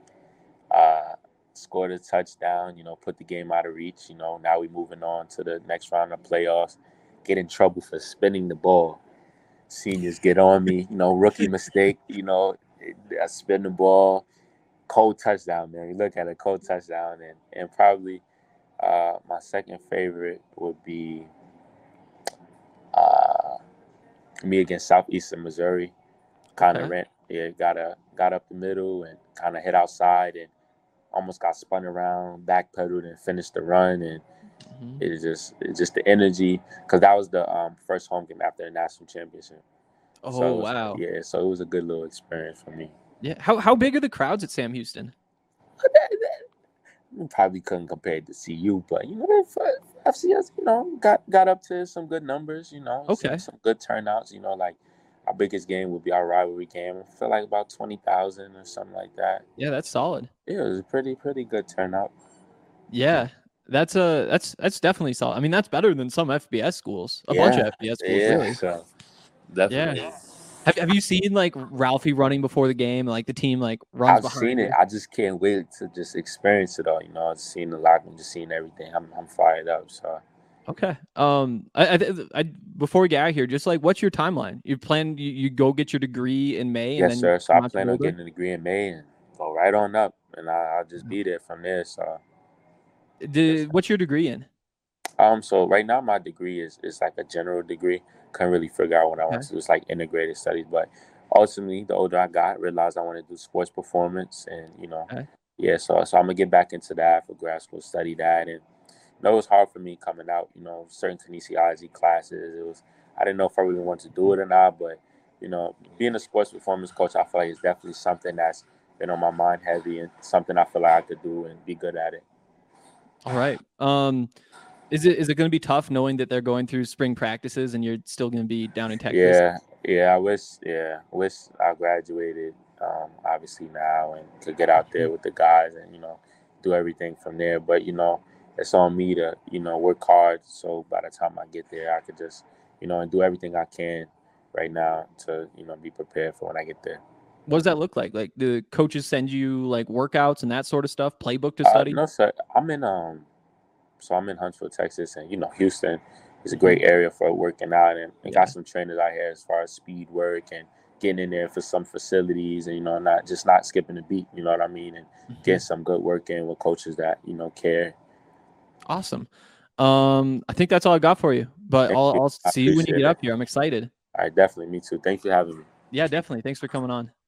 Scored a touchdown, put the game out of reach. Now we moving on to the next round of playoffs. Get in trouble for spinning the ball. Seniors get on me, rookie mistake, I spin the ball. Cold touchdown, man. You look at a cold touchdown. And probably my second favorite would be me against Southeastern Missouri. Kind of got up the middle and kind of hit outside and almost got spun around, backpedaled and finished the run. And it's just the energy, because that was the first home game after the national championship. Oh, wow. Yeah, so it was a good little experience for me. Yeah. How big are the crowds at Sam Houston? We probably couldn't compare it to CU, but FCS, got up to some good numbers, Okay. some good turnouts, like our biggest game would be our rivalry game. I feel like about 20,000 or something like that. Yeah, that's solid. Yeah, it was a pretty good turnout. Yeah, that's definitely solid. I mean, that's better than some FBS schools. A bunch of FBS schools, really. So definitely. Yeah. Have you seen like Ralphie running before the game? Like the team like runs behind. I've seen it. I just can't wait to just experience it all. I've seen the locker room, just seeing everything. I'm fired up. So. Okay. I before we get out of here, just like, what's your timeline? You go get your degree in May? Yes, sir. So I plan on getting a degree in May and go right on up, and I'll just be there from there. So. What's your degree in? So right now my degree is like a general degree. Couldn't really figure out what I want to do. It's like integrated studies, but ultimately, the older I got, I realized I want to do sports performance, and so I'm gonna get back into that for grad school, study that, and. It was hard for me coming out, certain kinesiology classes. I didn't know if I really wanted to do it or not, but, being a sports performance coach, I feel like it's definitely something that's been on my mind heavy and something I feel like I could do and be good at it. All right. Is it going to be tough knowing that they're going through spring practices and you're still going to be down in Texas? Yeah. I wish I graduated, obviously now, and could get out there with the guys and, do everything from there. But, it's on me to, work hard. So by the time I get there, I could just, and do everything I can right now to, be prepared for when I get there. What does that look like? Like, do coaches send you like workouts and that sort of stuff, playbook to study? No, sir. I'm in Huntsville, Texas, and Houston is a great area for working out, and got some trainers out here as far as speed work and getting in there for some facilities, and not skipping a beat. You know what I mean? And getting some good work in with coaches that care. Awesome. I think that's all I got for you, but I'll see you when you get up here. I'm excited. All right, definitely. Me too. Thanks for having me. Yeah, definitely. Thanks for coming on.